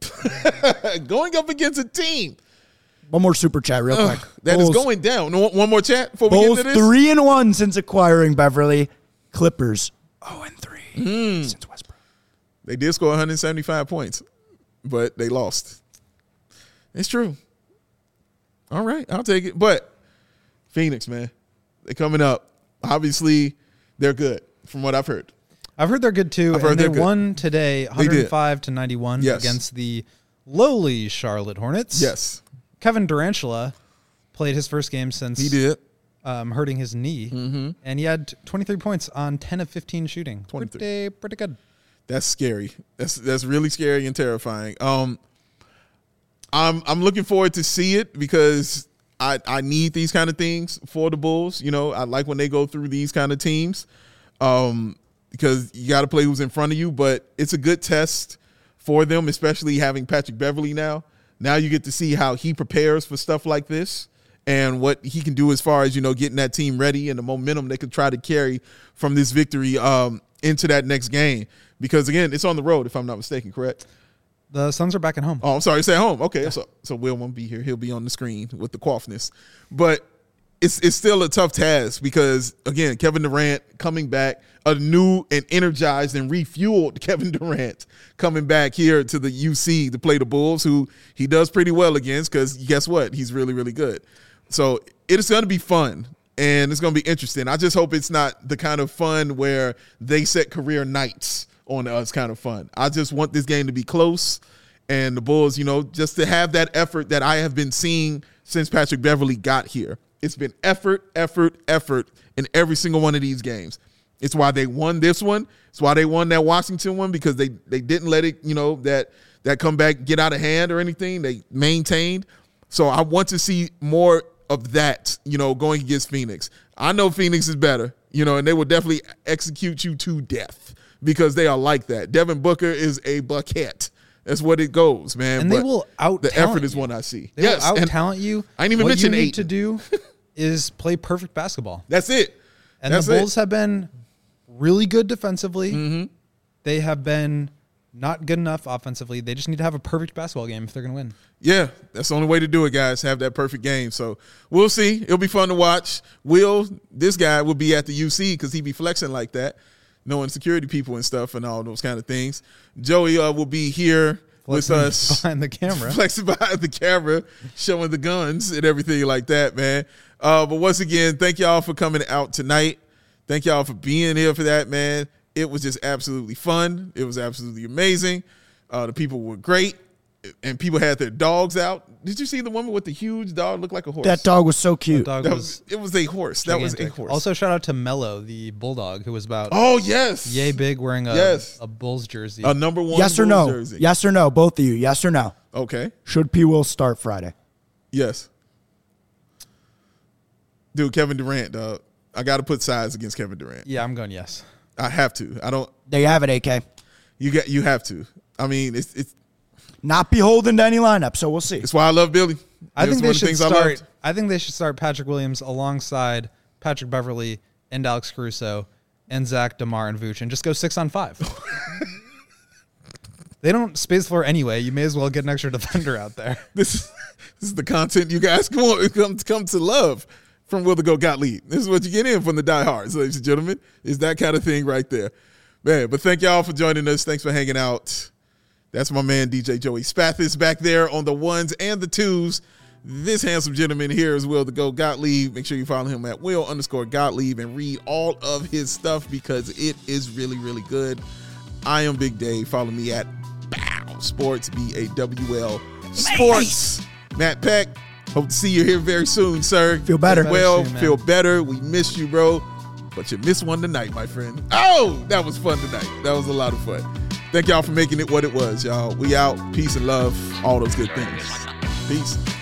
going up against a team One more super chat real quick. that Bulls, is going down. No, One more chat before we Bulls get to this. three and one since acquiring Beverly. Clippers zero and three Hmm. since Westbrook. They did score one hundred seventy-five points, but they lost. It's true. All right, I'll take it. But Phoenix, man, they're coming up. Obviously, they're good from what I've heard. I've heard they're good too. I've heard and they they're good. won today, one hundred five to ninety-one Yes. against the lowly Charlotte Hornets. Yes, Kevin Durantula played his first game since he did. um, hurting his knee, mm-hmm. and he had twenty-three points on ten of fifteen shooting. twenty-three. Pretty, pretty good. That's scary. That's that's really scary and terrifying. Um, I'm I'm looking forward to see it because I I need these kind of things for the Bulls. You know, I like when they go through these kind of teams, um, because you got to play who's in front of you. But it's a good test for them, especially having Patrick Beverly now. Now you get to see how he prepares for stuff like this and what he can do as far as, you know, getting that team ready and the momentum they could try to carry from this victory um, into that next game. Because, again, it's on the road, if I'm not mistaken, correct? The Suns are back at home. Oh, I'm sorry, it's at home. Okay, so so Will won't be here. He'll be on the screen with the quaffness. But it's it's still a tough task because, again, Kevin Durant coming back, a new and energized and refueled Kevin Durant coming back here to the U C to play the Bulls, who he does pretty well against because guess what? He's really, really good. So it's going to be fun. And it's going to be interesting. I just hope it's not the kind of fun where they set career nights on us kind of fun. I just want this game to be close and the Bulls, you know, just to have that effort that I have been seeing since Patrick Beverly got here. It's been effort, effort, effort in every single one of these games. It's why they won this one. It's why they won that Washington one because they they didn't let it, you know, that that comeback get out of hand or anything. They maintained. So I want to see more of that, you know, going against Phoenix. I know Phoenix is better, you know, and they will definitely execute you to death because they are like that. Devin Booker is a bucket. That's what it goes, man. And but they will out the effort is one I see. They yes, will out and talent you. I didn't even what mention you need eight. to do is play perfect basketball. That's it. And That's the Bulls it. have been really good defensively. Mm-hmm. They have been not good enough offensively. They just need to have a perfect basketball game if they're going to win. Yeah, that's the only way to do it, guys. Have that perfect game. So we'll see. It'll be fun to watch. Will, this guy will be at the U C because he be flexing like that, knowing security people and stuff and all those kind of things. Joey uh, will be here Flexing with us. behind the camera. Flexing behind the camera, showing the guns and everything like that, man. Uh, but once again, thank y'all for coming out tonight. Thank y'all for being here for that, man. It was just absolutely fun. It was absolutely amazing. Uh, the people were great. And people had their dogs out. Did you see the woman with the huge dog? Looked like a horse. That dog was so cute. Dog That was was, it was a horse. That was a gigantic. horse. Also, shout out to Mello, the bulldog, who was about oh, yes. yay big, wearing a, Yes. a Bulls jersey. A number one Yes or Bulls no? jersey. Yes or no? Both of you. Yes or no? Okay. Should P. Will start Friday? Yes. Dude, Kevin Durant, dog. I got to put sides against Kevin Durant. yeah, I'm going yes. I have to. I don't. There you have it, A K. You got. You have to. I mean, it's it's Not beholden to any lineup, so we'll see. it's why I love Billy. I That's think one they of the should things I start. loved. I think they should start Patrick Williams alongside Patrick Beverly and Alex Caruso and Zach, DeMar, and Vooch, and just go six on five. They don't space the floor anyway. You may as well get an extra defender out there. This is this is the content you guys come on, come come to love from Will the Go Gottlieb. This is what you get in from the diehards, ladies and gentlemen. Is that kind of thing right there, man. But thank y'all for joining us. Thanks for hanging out. That's my man D J Joey Spathis back there on the ones and the twos. This handsome gentleman here is Will the Go Gottlieb. Make sure you follow him at Will underscore Gottlieb and read all of his stuff because it is really, really good. I am Big Dave. Follow me at Bow Sports, B A W L Sports. Matt Peck, hope to see you here very soon, sir. Feel better. Well, soon, man. feel better. We missed you, bro. But you missed one tonight, my friend. Oh, that was fun tonight. That was a lot of fun. Thank y'all for making it what it was, y'all. We out. Peace and love. All those good things. Peace.